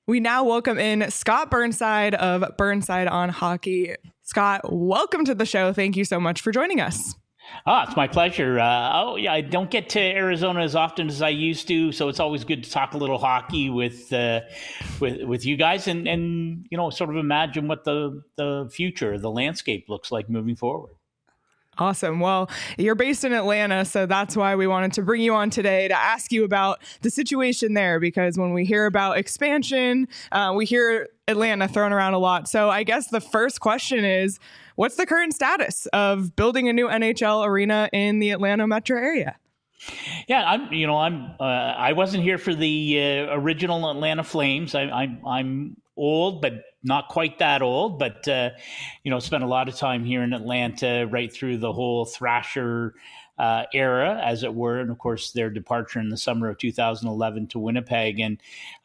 We now welcome in Scott Burnside of Burnside on Hockey. Scott, welcome to the show. Thank you so much for joining us. It's my pleasure. I don't get to Arizona as often as I used to, so it's always good to talk a little hockey with you guys and sort of imagine what the future, the landscape looks like moving forward. Awesome. Well, you're based in Atlanta, so that's why we wanted to bring you on today to ask you about the situation there, because when we hear about expansion, we hear Atlanta thrown around a lot. So I guess the first question is, what's the current status of building a new NHL arena in the Atlanta metro area? Yeah, I wasn't here for the original Atlanta Flames. I'm old, but not quite that old. But spent a lot of time here in Atlanta, right through the whole Thrasher era, as it were, and of course their departure in the summer of 2011 to Winnipeg. And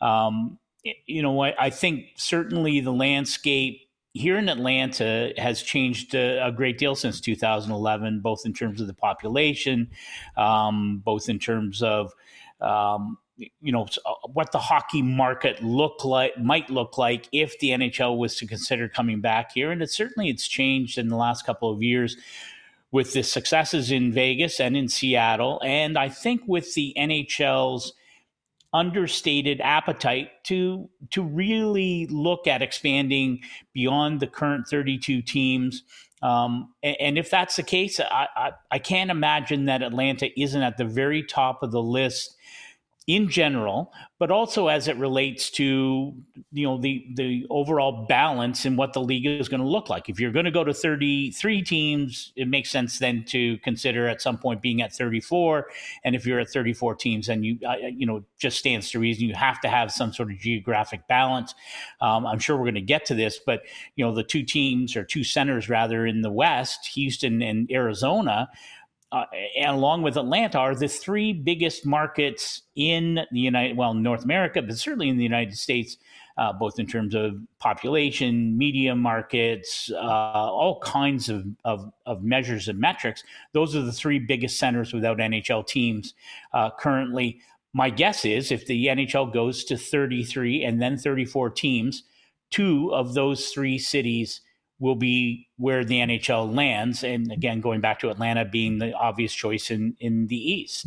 I think certainly the landscape here in Atlanta has changed a great deal since 2011, both in terms of the population, both in terms of what the hockey market might look like if the NHL was to consider coming back here. And it's changed in the last couple of years with the successes in Vegas and in Seattle. And I think with the NHL's understated appetite to really look at expanding beyond the current 32 teams. And if that's the case, I can't imagine that Atlanta isn't at the very top of the list in general, but also as it relates to the overall balance in what the league is going to look like. If you're going to go to 33 teams, it makes sense then to consider at some point being at 34. And if you're at 34 teams, then just stands to reason you have to have some sort of geographic balance. I'm sure we're going to get to this, but the two teams, or two centers rather, in the West, Houston and Arizona, and along with Atlanta, are the three biggest markets in the North America, but certainly in the United States, both in terms of population, media markets, all kinds of measures and metrics. Those are the three biggest centers without NHL teams currently. My guess is if the NHL goes to 33 and then 34 teams, two of those three cities will be where the NHL lands. And again, going back to Atlanta being the obvious choice in the East.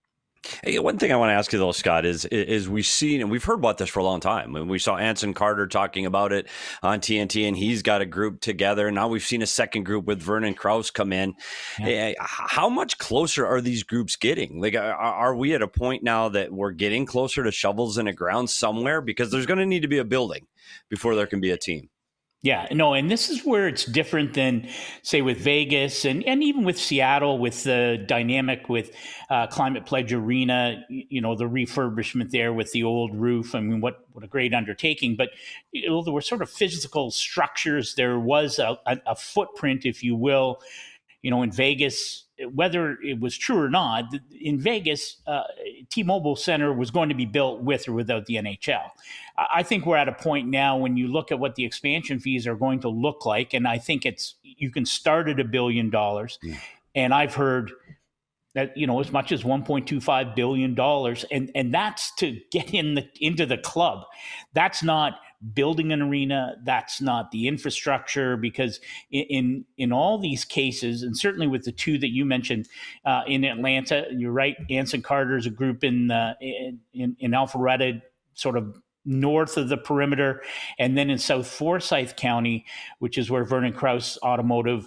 Hey, one thing I want to ask you though, Scott, is we've seen, and we've heard about this for a long time. We saw Anson Carter talking about it on TNT, and he's got a group together. Now we've seen a second group with Vernon Kraus come in. Yeah. How much closer are these groups getting? Like, are we at a point now that we're getting closer to shovels in the ground somewhere? Because there's going to need to be a building before there can be a team. Yeah, no, and this is where it's different than, say, with Vegas and even with Seattle, with the dynamic with Climate Pledge Arena, the refurbishment there with the old roof. I mean, what a great undertaking. But there were sort of physical structures. There was a footprint, if you will, in Vegas. Whether it was true or not, in Vegas, T-Mobile Center was going to be built with or without the NHL. I think we're at a point now when you look at what the expansion fees are going to look like, and I think you can start at $1 billion. And I've heard that, as much as $1.25 billion, and that's to get into the club. That's not building an arena. That's not the infrastructure, because in all these cases, and certainly with the two that you mentioned in Atlanta, you're right. Anson Carter's a group in Alpharetta, sort of north of the perimeter, and then in South Forsyth County, which is where Vernon Kraus Automotive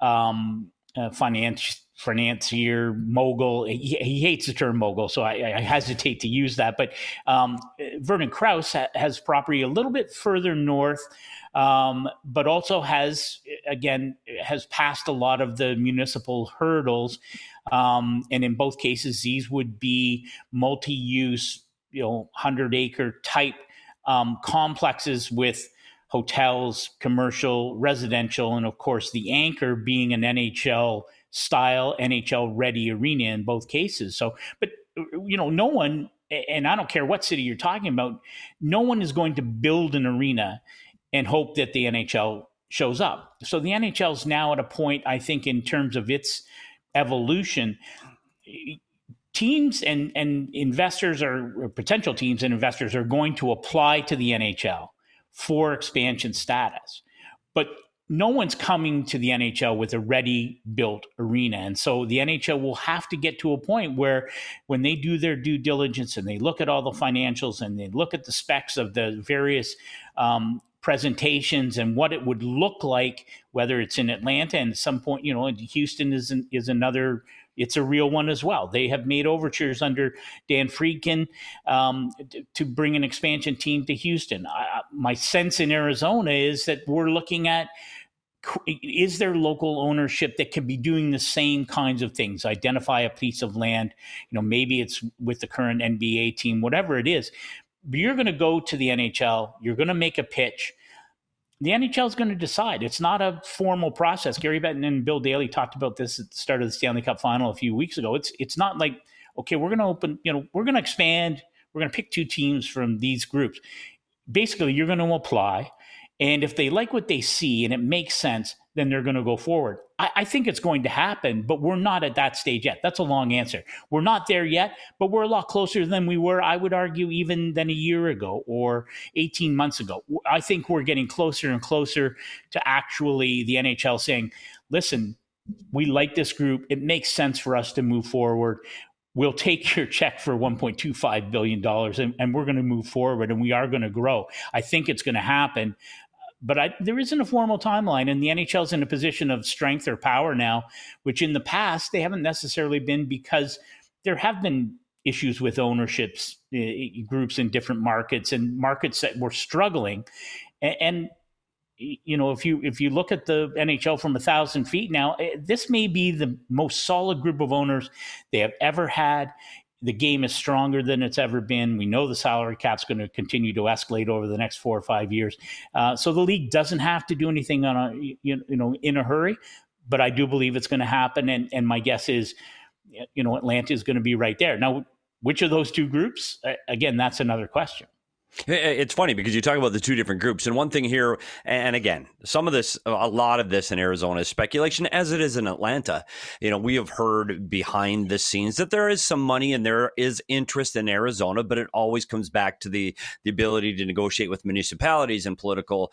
financier, mogul. He hates the term mogul, so I hesitate to use that. But Vernon Kraus has property a little bit further north, but also has passed a lot of the municipal hurdles. And in both cases, these would be multi-use, 100-acre type complexes with hotels, commercial, residential, and of course the anchor being an NHL style, NHL ready arena in both cases. So, but no one, and I don't care what city you're talking about, no one is going to build an arena and hope that the NHL shows up. So the NHL is now at a point, I think, in terms of its evolution, teams and investors or potential teams and investors are going to apply to the NHL for expansion status. But no one's coming to the NHL with a ready-built arena. And so the NHL will have to get to a point where when they do their due diligence and they look at all the financials and they look at the specs of the various presentations and what it would look like, whether it's in Atlanta and at some point, Houston is another. It's a real one as well. They have made overtures under Dan Friedkin to bring an expansion team to Houston. My sense in Arizona is that we're looking at, is there local ownership that could be doing the same kinds of things? Identify a piece of land, maybe it's with the current NBA team, whatever it is. But you're going to go to the NHL. You're going to make a pitch. The NHL is going to decide. It's not a formal process. Gary Bettman and Bill Daly talked about this at the start of the Stanley Cup final a few weeks ago. It's not like, okay, we're going to open, we're going to expand. We're going to pick 2 teams from these groups. Basically, you're going to apply. And if they like what they see and it makes sense, then they're going to go forward. I think it's going to happen, but we're not at that stage yet. That's a long answer. We're not there yet, but we're a lot closer than we were, I would argue, even than a year ago or 18 months ago. I think we're getting closer and closer to actually the NHL saying, listen, we like this group. It makes sense for us to move forward. We'll take your check for $1.25 billion and we're going to move forward and we are going to grow. I think it's going to happen. But there isn't a formal timeline, and the NHL is in a position of strength or power now, which in the past they haven't necessarily been, because there have been issues with ownerships groups in different markets and markets that were struggling. And if you look at the NHL from 1,000 feet now, this may be the most solid group of owners they have ever had. The game is stronger than it's ever been. We know the salary cap's going to continue to escalate over the next 4 or 5 years. So the league doesn't have to do anything in a hurry, but I do believe it's going to happen. And my guess is, Atlanta is going to be right there. Now, which of those 2 groups? Again, that's another question. It's funny because you talk about the 2 different groups, and one thing here, and again, a lot of this in Arizona is speculation, as it is in Atlanta. We have heard behind the scenes that there is some money and there is interest in Arizona, but it always comes back to the ability to negotiate with municipalities and political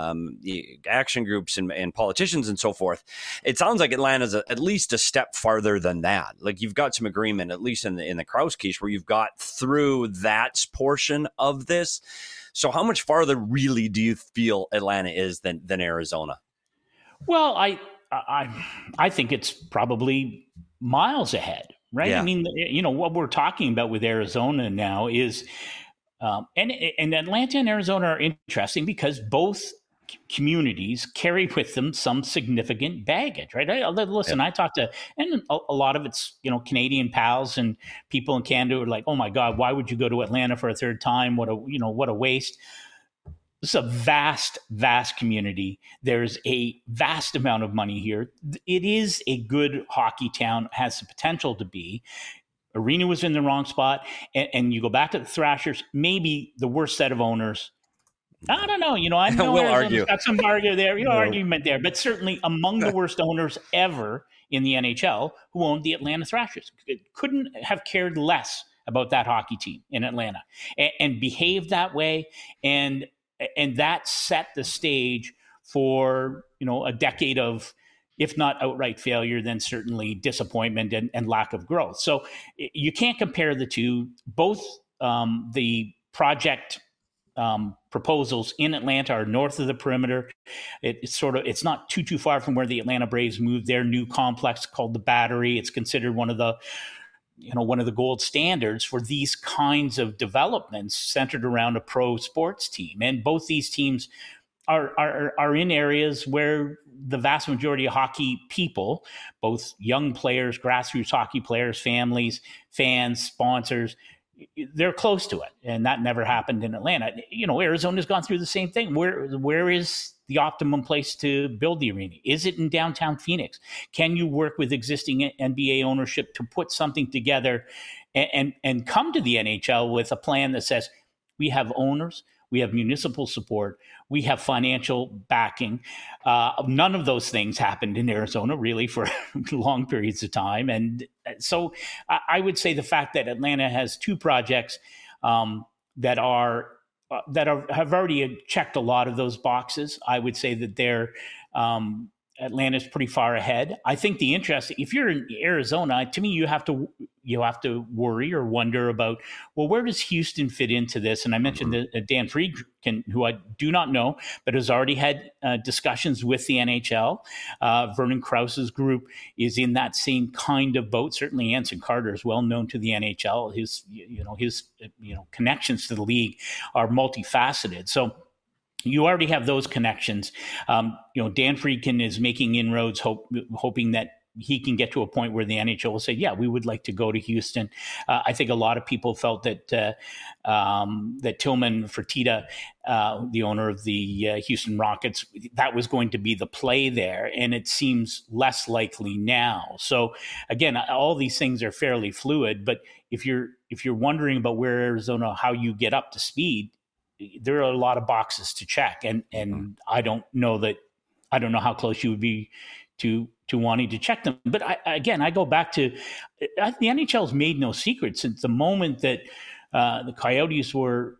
action groups and politicians and so forth. It sounds like Atlanta's at least a step farther than that. Like, you've got some agreement, at least in the Krause case, where you've got through that portion of this. So how much farther really do you feel Atlanta is than Arizona? Well, I think it's probably miles ahead, right? Yeah. I mean, what we're talking about with Arizona now is, and Atlanta and Arizona are interesting because both communities carry with them some significant baggage, right? Listen, I talked to, and a lot of it's, Canadian pals and people in Canada who are like, oh my God, why would you go to Atlanta for a 3rd time? What a waste. It's a vast, vast community. There's a vast amount of money here. It is a good hockey town, has the potential to be. Arena was in the wrong spot. And you go back to the Thrashers, maybe the worst set of owners. I don't know. I know we'll argue. Got some argument there, but certainly among the worst owners ever in the NHL who owned the Atlanta Thrashers. Couldn't have cared less about that hockey team in Atlanta and behaved that way. And that set the stage for, a decade of, if not outright failure, then certainly disappointment and lack of growth. So you can't compare the 2. Both the project proposals in Atlanta are north of the perimeter. It's not too far from where the Atlanta Braves moved their new complex called the Battery. It's considered one of the gold standards for these kinds of developments centered around a pro sports team. And both these teams are in areas where the vast majority of hockey people, both young players, grassroots hockey players, families, fans, sponsors, they're close to it, and that never happened in Atlanta. Arizona's gone through the same thing. Where is the optimum place to build the arena? Is it in downtown Phoenix? Can you work with existing NBA ownership to put something together and come to the NHL with a plan that says we have owners, we have municipal support, we have financial backing. None of those things happened in Arizona really for long periods of time. And so I would say the fact that Atlanta has two projects that have already checked a lot of those boxes, I would say that they're Atlanta's pretty far ahead. I think the interest, if you're in Arizona, to me, you have to worry or wonder about, well, where does Houston fit into this? And I mentioned that Dan Friedkin, who I do not know, but has already had discussions with the NHL. Vernon Krause's group is in that same kind of boat. Certainly, Anson Carter is well known to the NHL. His connections to the league are multifaceted. So you already have those connections. Dan Friedkin is making inroads, hoping that he can get to a point where the NHL will say, yeah, we would like to go to Houston. I think a lot of people felt that Tillman Fertitta, the owner of the Houston Rockets, that was going to be the play there. And it seems less likely now. So again, all these things are fairly fluid, but if you're wondering about where Arizona, how you get up to speed, there are a lot of boxes to check. And I don't know how close you would be to wanting to check them. But I go back to the NHL's made no secret since the moment that the Coyotes were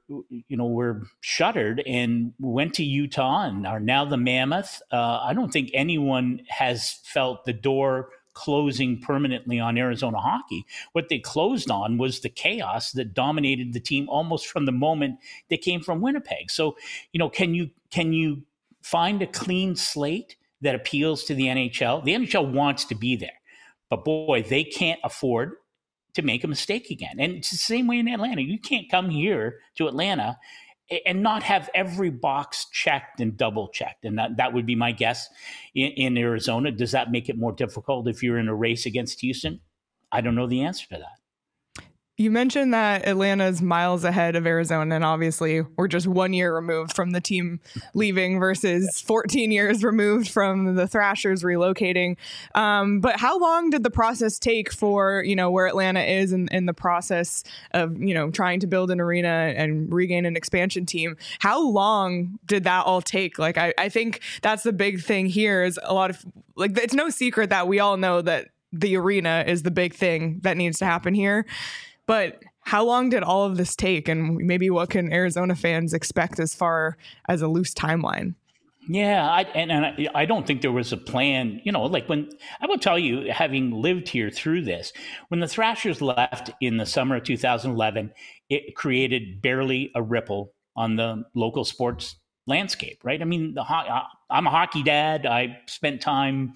shuttered and went to Utah and are now the Mammoth. I don't think anyone has felt the door closing permanently on Arizona hockey. What they closed on was the chaos that dominated the team almost from the moment they came from Winnipeg. So, can you find a clean slate that appeals to the NHL? The NHL wants to be there, but boy, they can't afford to make a mistake again. And it's the same way in Atlanta. You can't come here to Atlanta and not have every box checked and double checked. And that would be my guess in Arizona. Does that make it more difficult if you're in a race against Houston? I don't know the answer to that. You mentioned that Atlanta's miles ahead of Arizona, and obviously we're just 1 year removed from the team leaving versus 14 years removed from the Thrashers relocating. But how long did the process take for, where Atlanta is in the process of, trying to build an arena and regain an expansion team? How long did that all take? Like, I think that's the big thing here is a lot of, like, it's no secret that we all know that the arena is the big thing that needs to happen here. But how long did all of this take? And maybe what can Arizona fans expect as far as a loose timeline? Yeah, I don't think there was a plan, like when I will tell you, having lived here through this, when the Thrashers left in the summer of 2011, it created barely a ripple on the local sports landscape, right? I mean, I'm a hockey dad. I spent time,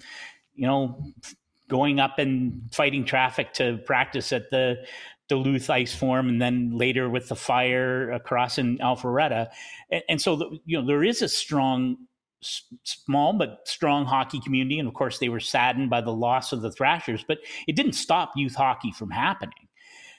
going up and fighting traffic to practice at the Duluth Ice Forum, and then later with the Fire across in Alpharetta. And so, there is a small but strong hockey community. And of course, they were saddened by the loss of the Thrashers, but it didn't stop youth hockey from happening.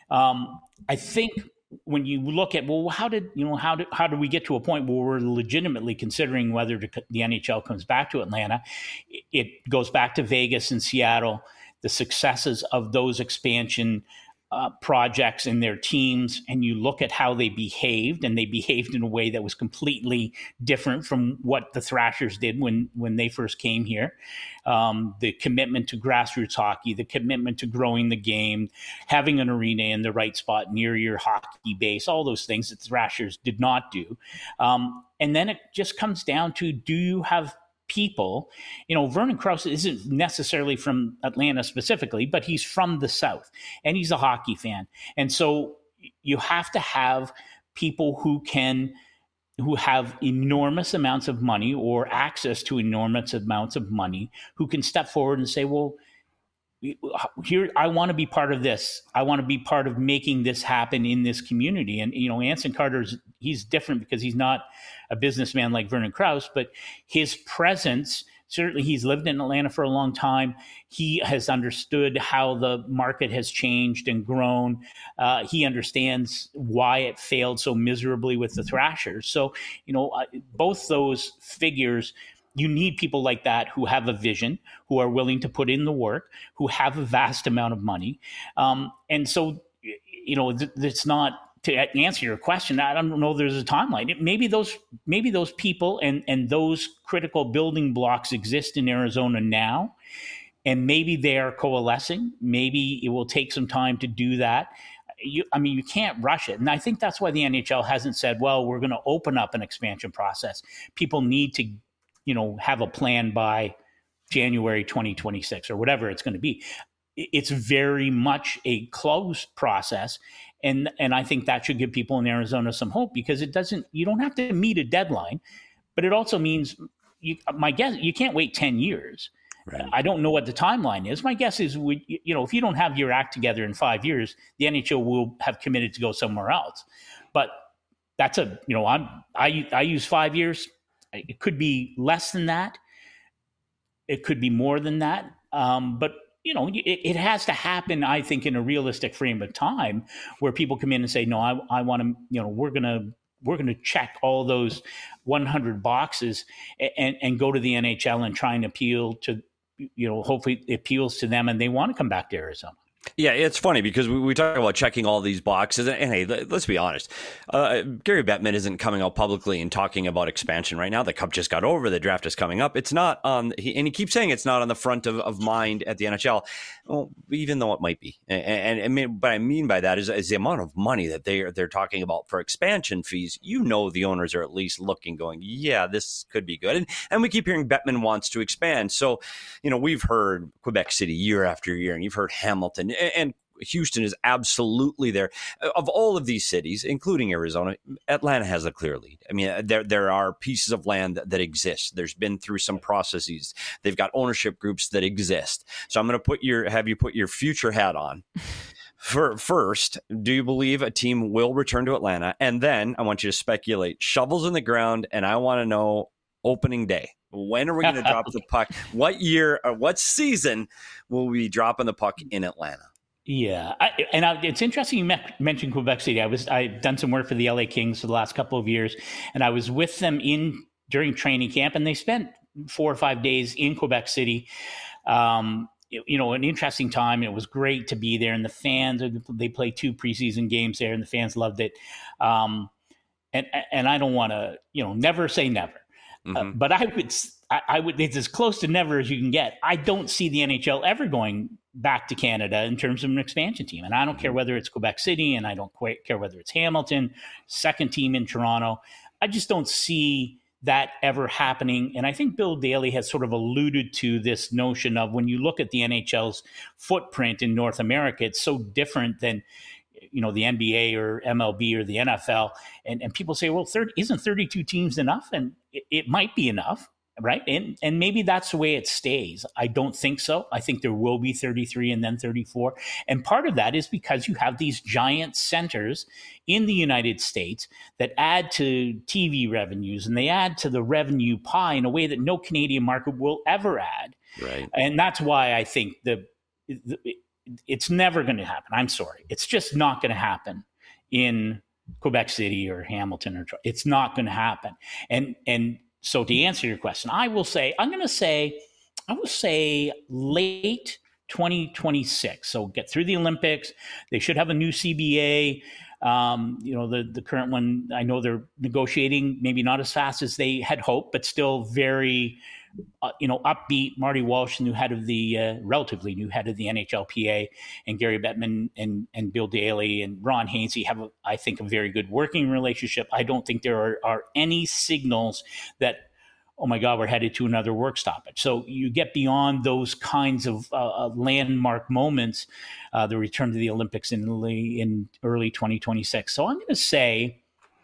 I think when you look at, well, how did we get to a point where we're legitimately considering whether the NHL comes back to Atlanta? It goes back to Vegas and Seattle, the successes of those expansion projects and their teams, and you look at how they behaved, and they behaved in a way that was completely different from what the Thrashers did when they first came here. The commitment to grassroots hockey, the commitment to growing the game, having an arena in the right spot near your hockey base, all those things that the Thrashers did not do. And then it just comes down to, do you have people? Vernon Krause isn't necessarily from Atlanta specifically, but he's from the South and he's a hockey fan. And so you have to have people who have enormous amounts of money or access to enormous amounts of money, who can step forward and say, well, here, I want to be part of this. I want to be part of making this happen in this community. And, Anson Carter's, he's different because he's not a businessman like Vernon Krause, but his presence, certainly he's lived in Atlanta for a long time. He has understood how the market has changed and grown. He understands why it failed so miserably with the Thrashers. So, both those figures, you need people like that who have a vision, who are willing to put in the work, who have a vast amount of money. And so, it's not to answer your question, I don't know there's a timeline. Maybe those people and those critical building blocks exist in Arizona now, and maybe they are coalescing. Maybe it will take some time to do that. You can't rush it. And I think that's why the NHL hasn't said, well, we're going to open up an expansion process. People need to, have a plan by January 2026 or whatever it's going to be. It's very much a closed process. And I think that should give people in Arizona some hope, because you don't have to meet a deadline, but it also means my guess, you can't wait 10 years. Right. I don't know what the timeline is. My guess is, if you don't have your act together in 5 years, the NHL will have committed to go somewhere else. But that's I use 5 years. It could be less than that. It could be more than that. But it has to happen, I think, in a realistic frame of time where people come in and say, no, I want to, we're going to check all those 100 boxes and go to the NHL and try and appeal to, hopefully it appeals to them and they want to come back to Arizona. Yeah, it's funny because we talk about checking all these boxes. And hey, let's be honest. Gary Bettman isn't coming out publicly and talking about expansion right now. The Cup just got over. The draft is coming up. It's not on, and he keeps saying it's not on the front of mind at the NHL. Well, even though it might be. And what I mean by that is the amount of money that they're talking about for expansion fees. The owners are at least looking, going, yeah, this could be good. And we keep hearing Bettman wants to expand. So, we've heard Quebec City year after year, and you've heard Hamilton. And Houston is absolutely there. Of all of these cities, including Arizona, Atlanta has a clear lead. I mean, there are pieces of land that exist. There's been through some processes. They've got ownership groups that exist. So I'm going to have you put your future hat on. First, do you believe a team will return to Atlanta? And then I want you to speculate. Shovels in the ground, and I want to know opening day. When are we going to drop the puck? What year or what season will we be dropping the puck in Atlanta? Yeah, it's interesting you mentioned Quebec City. I've done some work for the LA Kings for the last couple of years, and I was with them during training camp, and they spent 4 or 5 days in Quebec City. An interesting time. It was great to be there, and the fans, they played 2 preseason games there, and the fans loved it. And I don't want to, never say never. Mm-hmm. But I would, it's as close to never as you can get. I don't see the NHL ever going back to Canada in terms of an expansion team. And I don't care whether it's Quebec City, and I don't quite care whether it's Hamilton, second team in Toronto. I just don't see that ever happening. And I think Bill Daly has sort of alluded to this notion of, when you look at the NHL's footprint in North America, it's so different than, the NBA or MLB or the NFL. And people say, well, isn't 32 teams enough? And it might be enough, right? And maybe that's the way it stays. I don't think so. I think there will be 33 and then 34. And part of that is because you have these giant centers in the United States that add to TV revenues, and they add to the revenue pie in a way that no Canadian market will ever add. Right. And that's why I think it's never going to happen. I'm sorry. It's just not going to happen in Quebec City or Hamilton. It's not going to happen. And so to answer your question, I will say late 2026. So get through the Olympics. They should have a new CBA. The current one, I know they're negotiating, maybe not as fast as they had hoped, but still very, upbeat. Marty Walsh, relatively new head of the NHLPA, and Gary Bettman and Bill Daly and Ron Hainsey have, I think, a very good working relationship. I don't think there are any signals that, oh my God, we're headed to another work stoppage. So you get beyond those kinds of landmark moments, the return to the Olympics in early 2026. So I'm going to say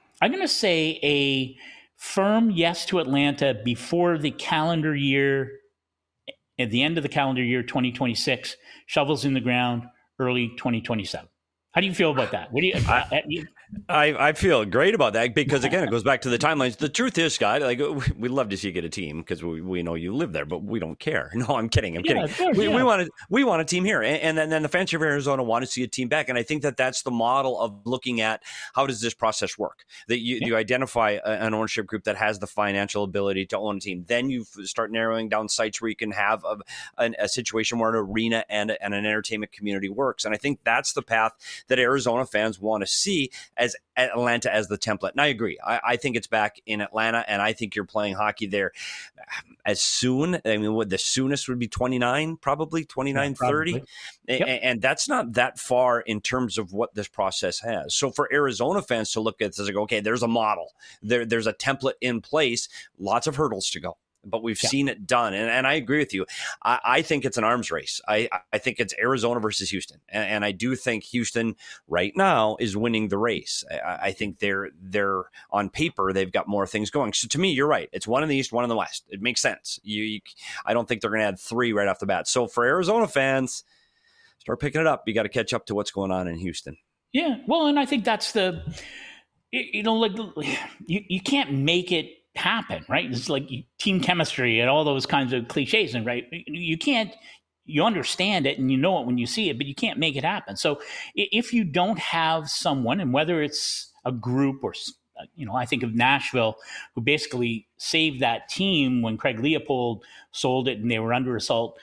a firm yes to Atlanta before the calendar year, at the end of the calendar year 2026, shovels in the ground, early 2027. How do you feel about that? What do you? I feel great about that because, again, it goes back to the timelines. The truth is, Scott, we'd love to see you get a team because we know you live there, but we don't care. No, I'm kidding. Course, we want a team here, and then the fans of Arizona want to see a team back. And I think that's the model of looking at how does this process work. That you identify an ownership group that has the financial ability to own a team. Then you start narrowing down sites where you can have a situation where an arena and an entertainment community works. And I think that's the path that Arizona fans want to see. as Atlanta as the template. And I agree. I think it's back in Atlanta, and I think you're playing hockey there as soon. I mean, the soonest would be 29, probably 29, 30. Yep. And that's not that far in terms of what this process has. So for Arizona fans to look at this and go, okay, there's a model. There's a template in place, lots of hurdles to go. But we've seen it done. And I agree with you. I think it's an arms race. I think it's Arizona versus Houston. And I do think Houston right now is winning the race. I think they're on paper, they've got more things going. So to me, you're right. It's one in the East, one in the West. It makes sense. I don't think they're going to add 3 right off the bat. So for Arizona fans, start picking it up. You got to catch up to what's going on in Houston. Yeah. Well, and I think that's you can't make it happen, right? It's like team chemistry and all those kinds of cliches, and right, you understand it and you know it when you see it, but you can't make it happen. So if you don't have someone, and whether it's a group or I think of Nashville, who basically saved that team when Craig Leopold sold it and they were under assault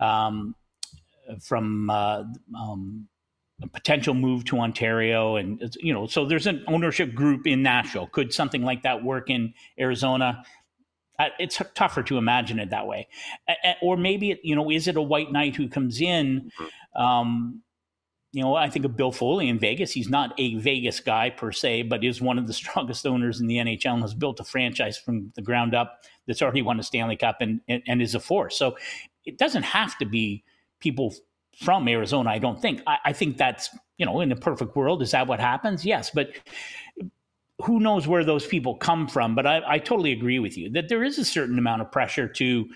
from a potential move to Ontario. And, so there's an ownership group in Nashville. Could something like that work in Arizona? It's tougher to imagine it that way. Or maybe, is it a white knight who comes in? I think of Bill Foley in Vegas. He's not a Vegas guy per se, but is one of the strongest owners in the NHL and has built a franchise from the ground up that's already won a Stanley Cup and is a force. So it doesn't have to be people from Arizona, I don't think. I think that's, in a perfect world, is that what happens? Yes, but who knows where those people come from? But I totally agree with you that there is a certain amount of pressure to,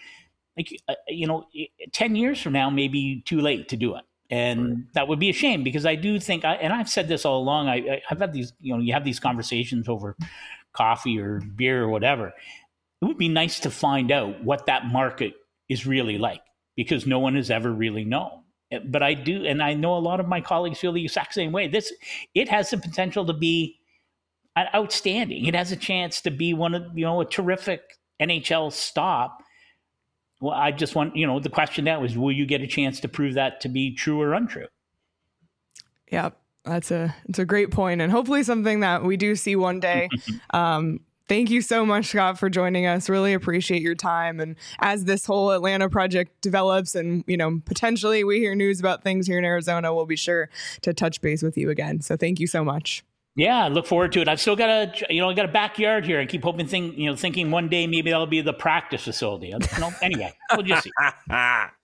10 years from now, maybe too late to do it. And that would be a shame, because I do think, and I've said this all along, I've had these, you have these conversations over coffee or beer or whatever. It would be nice to find out what that market is really like, because no one has ever really known. But I do, and I know a lot of my colleagues feel the exact same way. It has the potential to be outstanding. It has a chance to be one of, a terrific NHL stop. Well, I just want, the question now is, will you get a chance to prove that to be true or untrue? Yeah, it's a great point, and hopefully something that we do see one day. Thank you so much, Scott, for joining us. Really appreciate your time. And as this whole Atlanta project develops and, potentially we hear news about things here in Arizona, we'll be sure to touch base with you again. So thank you so much. Yeah, I look forward to it. I've still got a backyard here. I keep hoping, thinking one day maybe that'll be the practice facility. Anyway, we'll just see.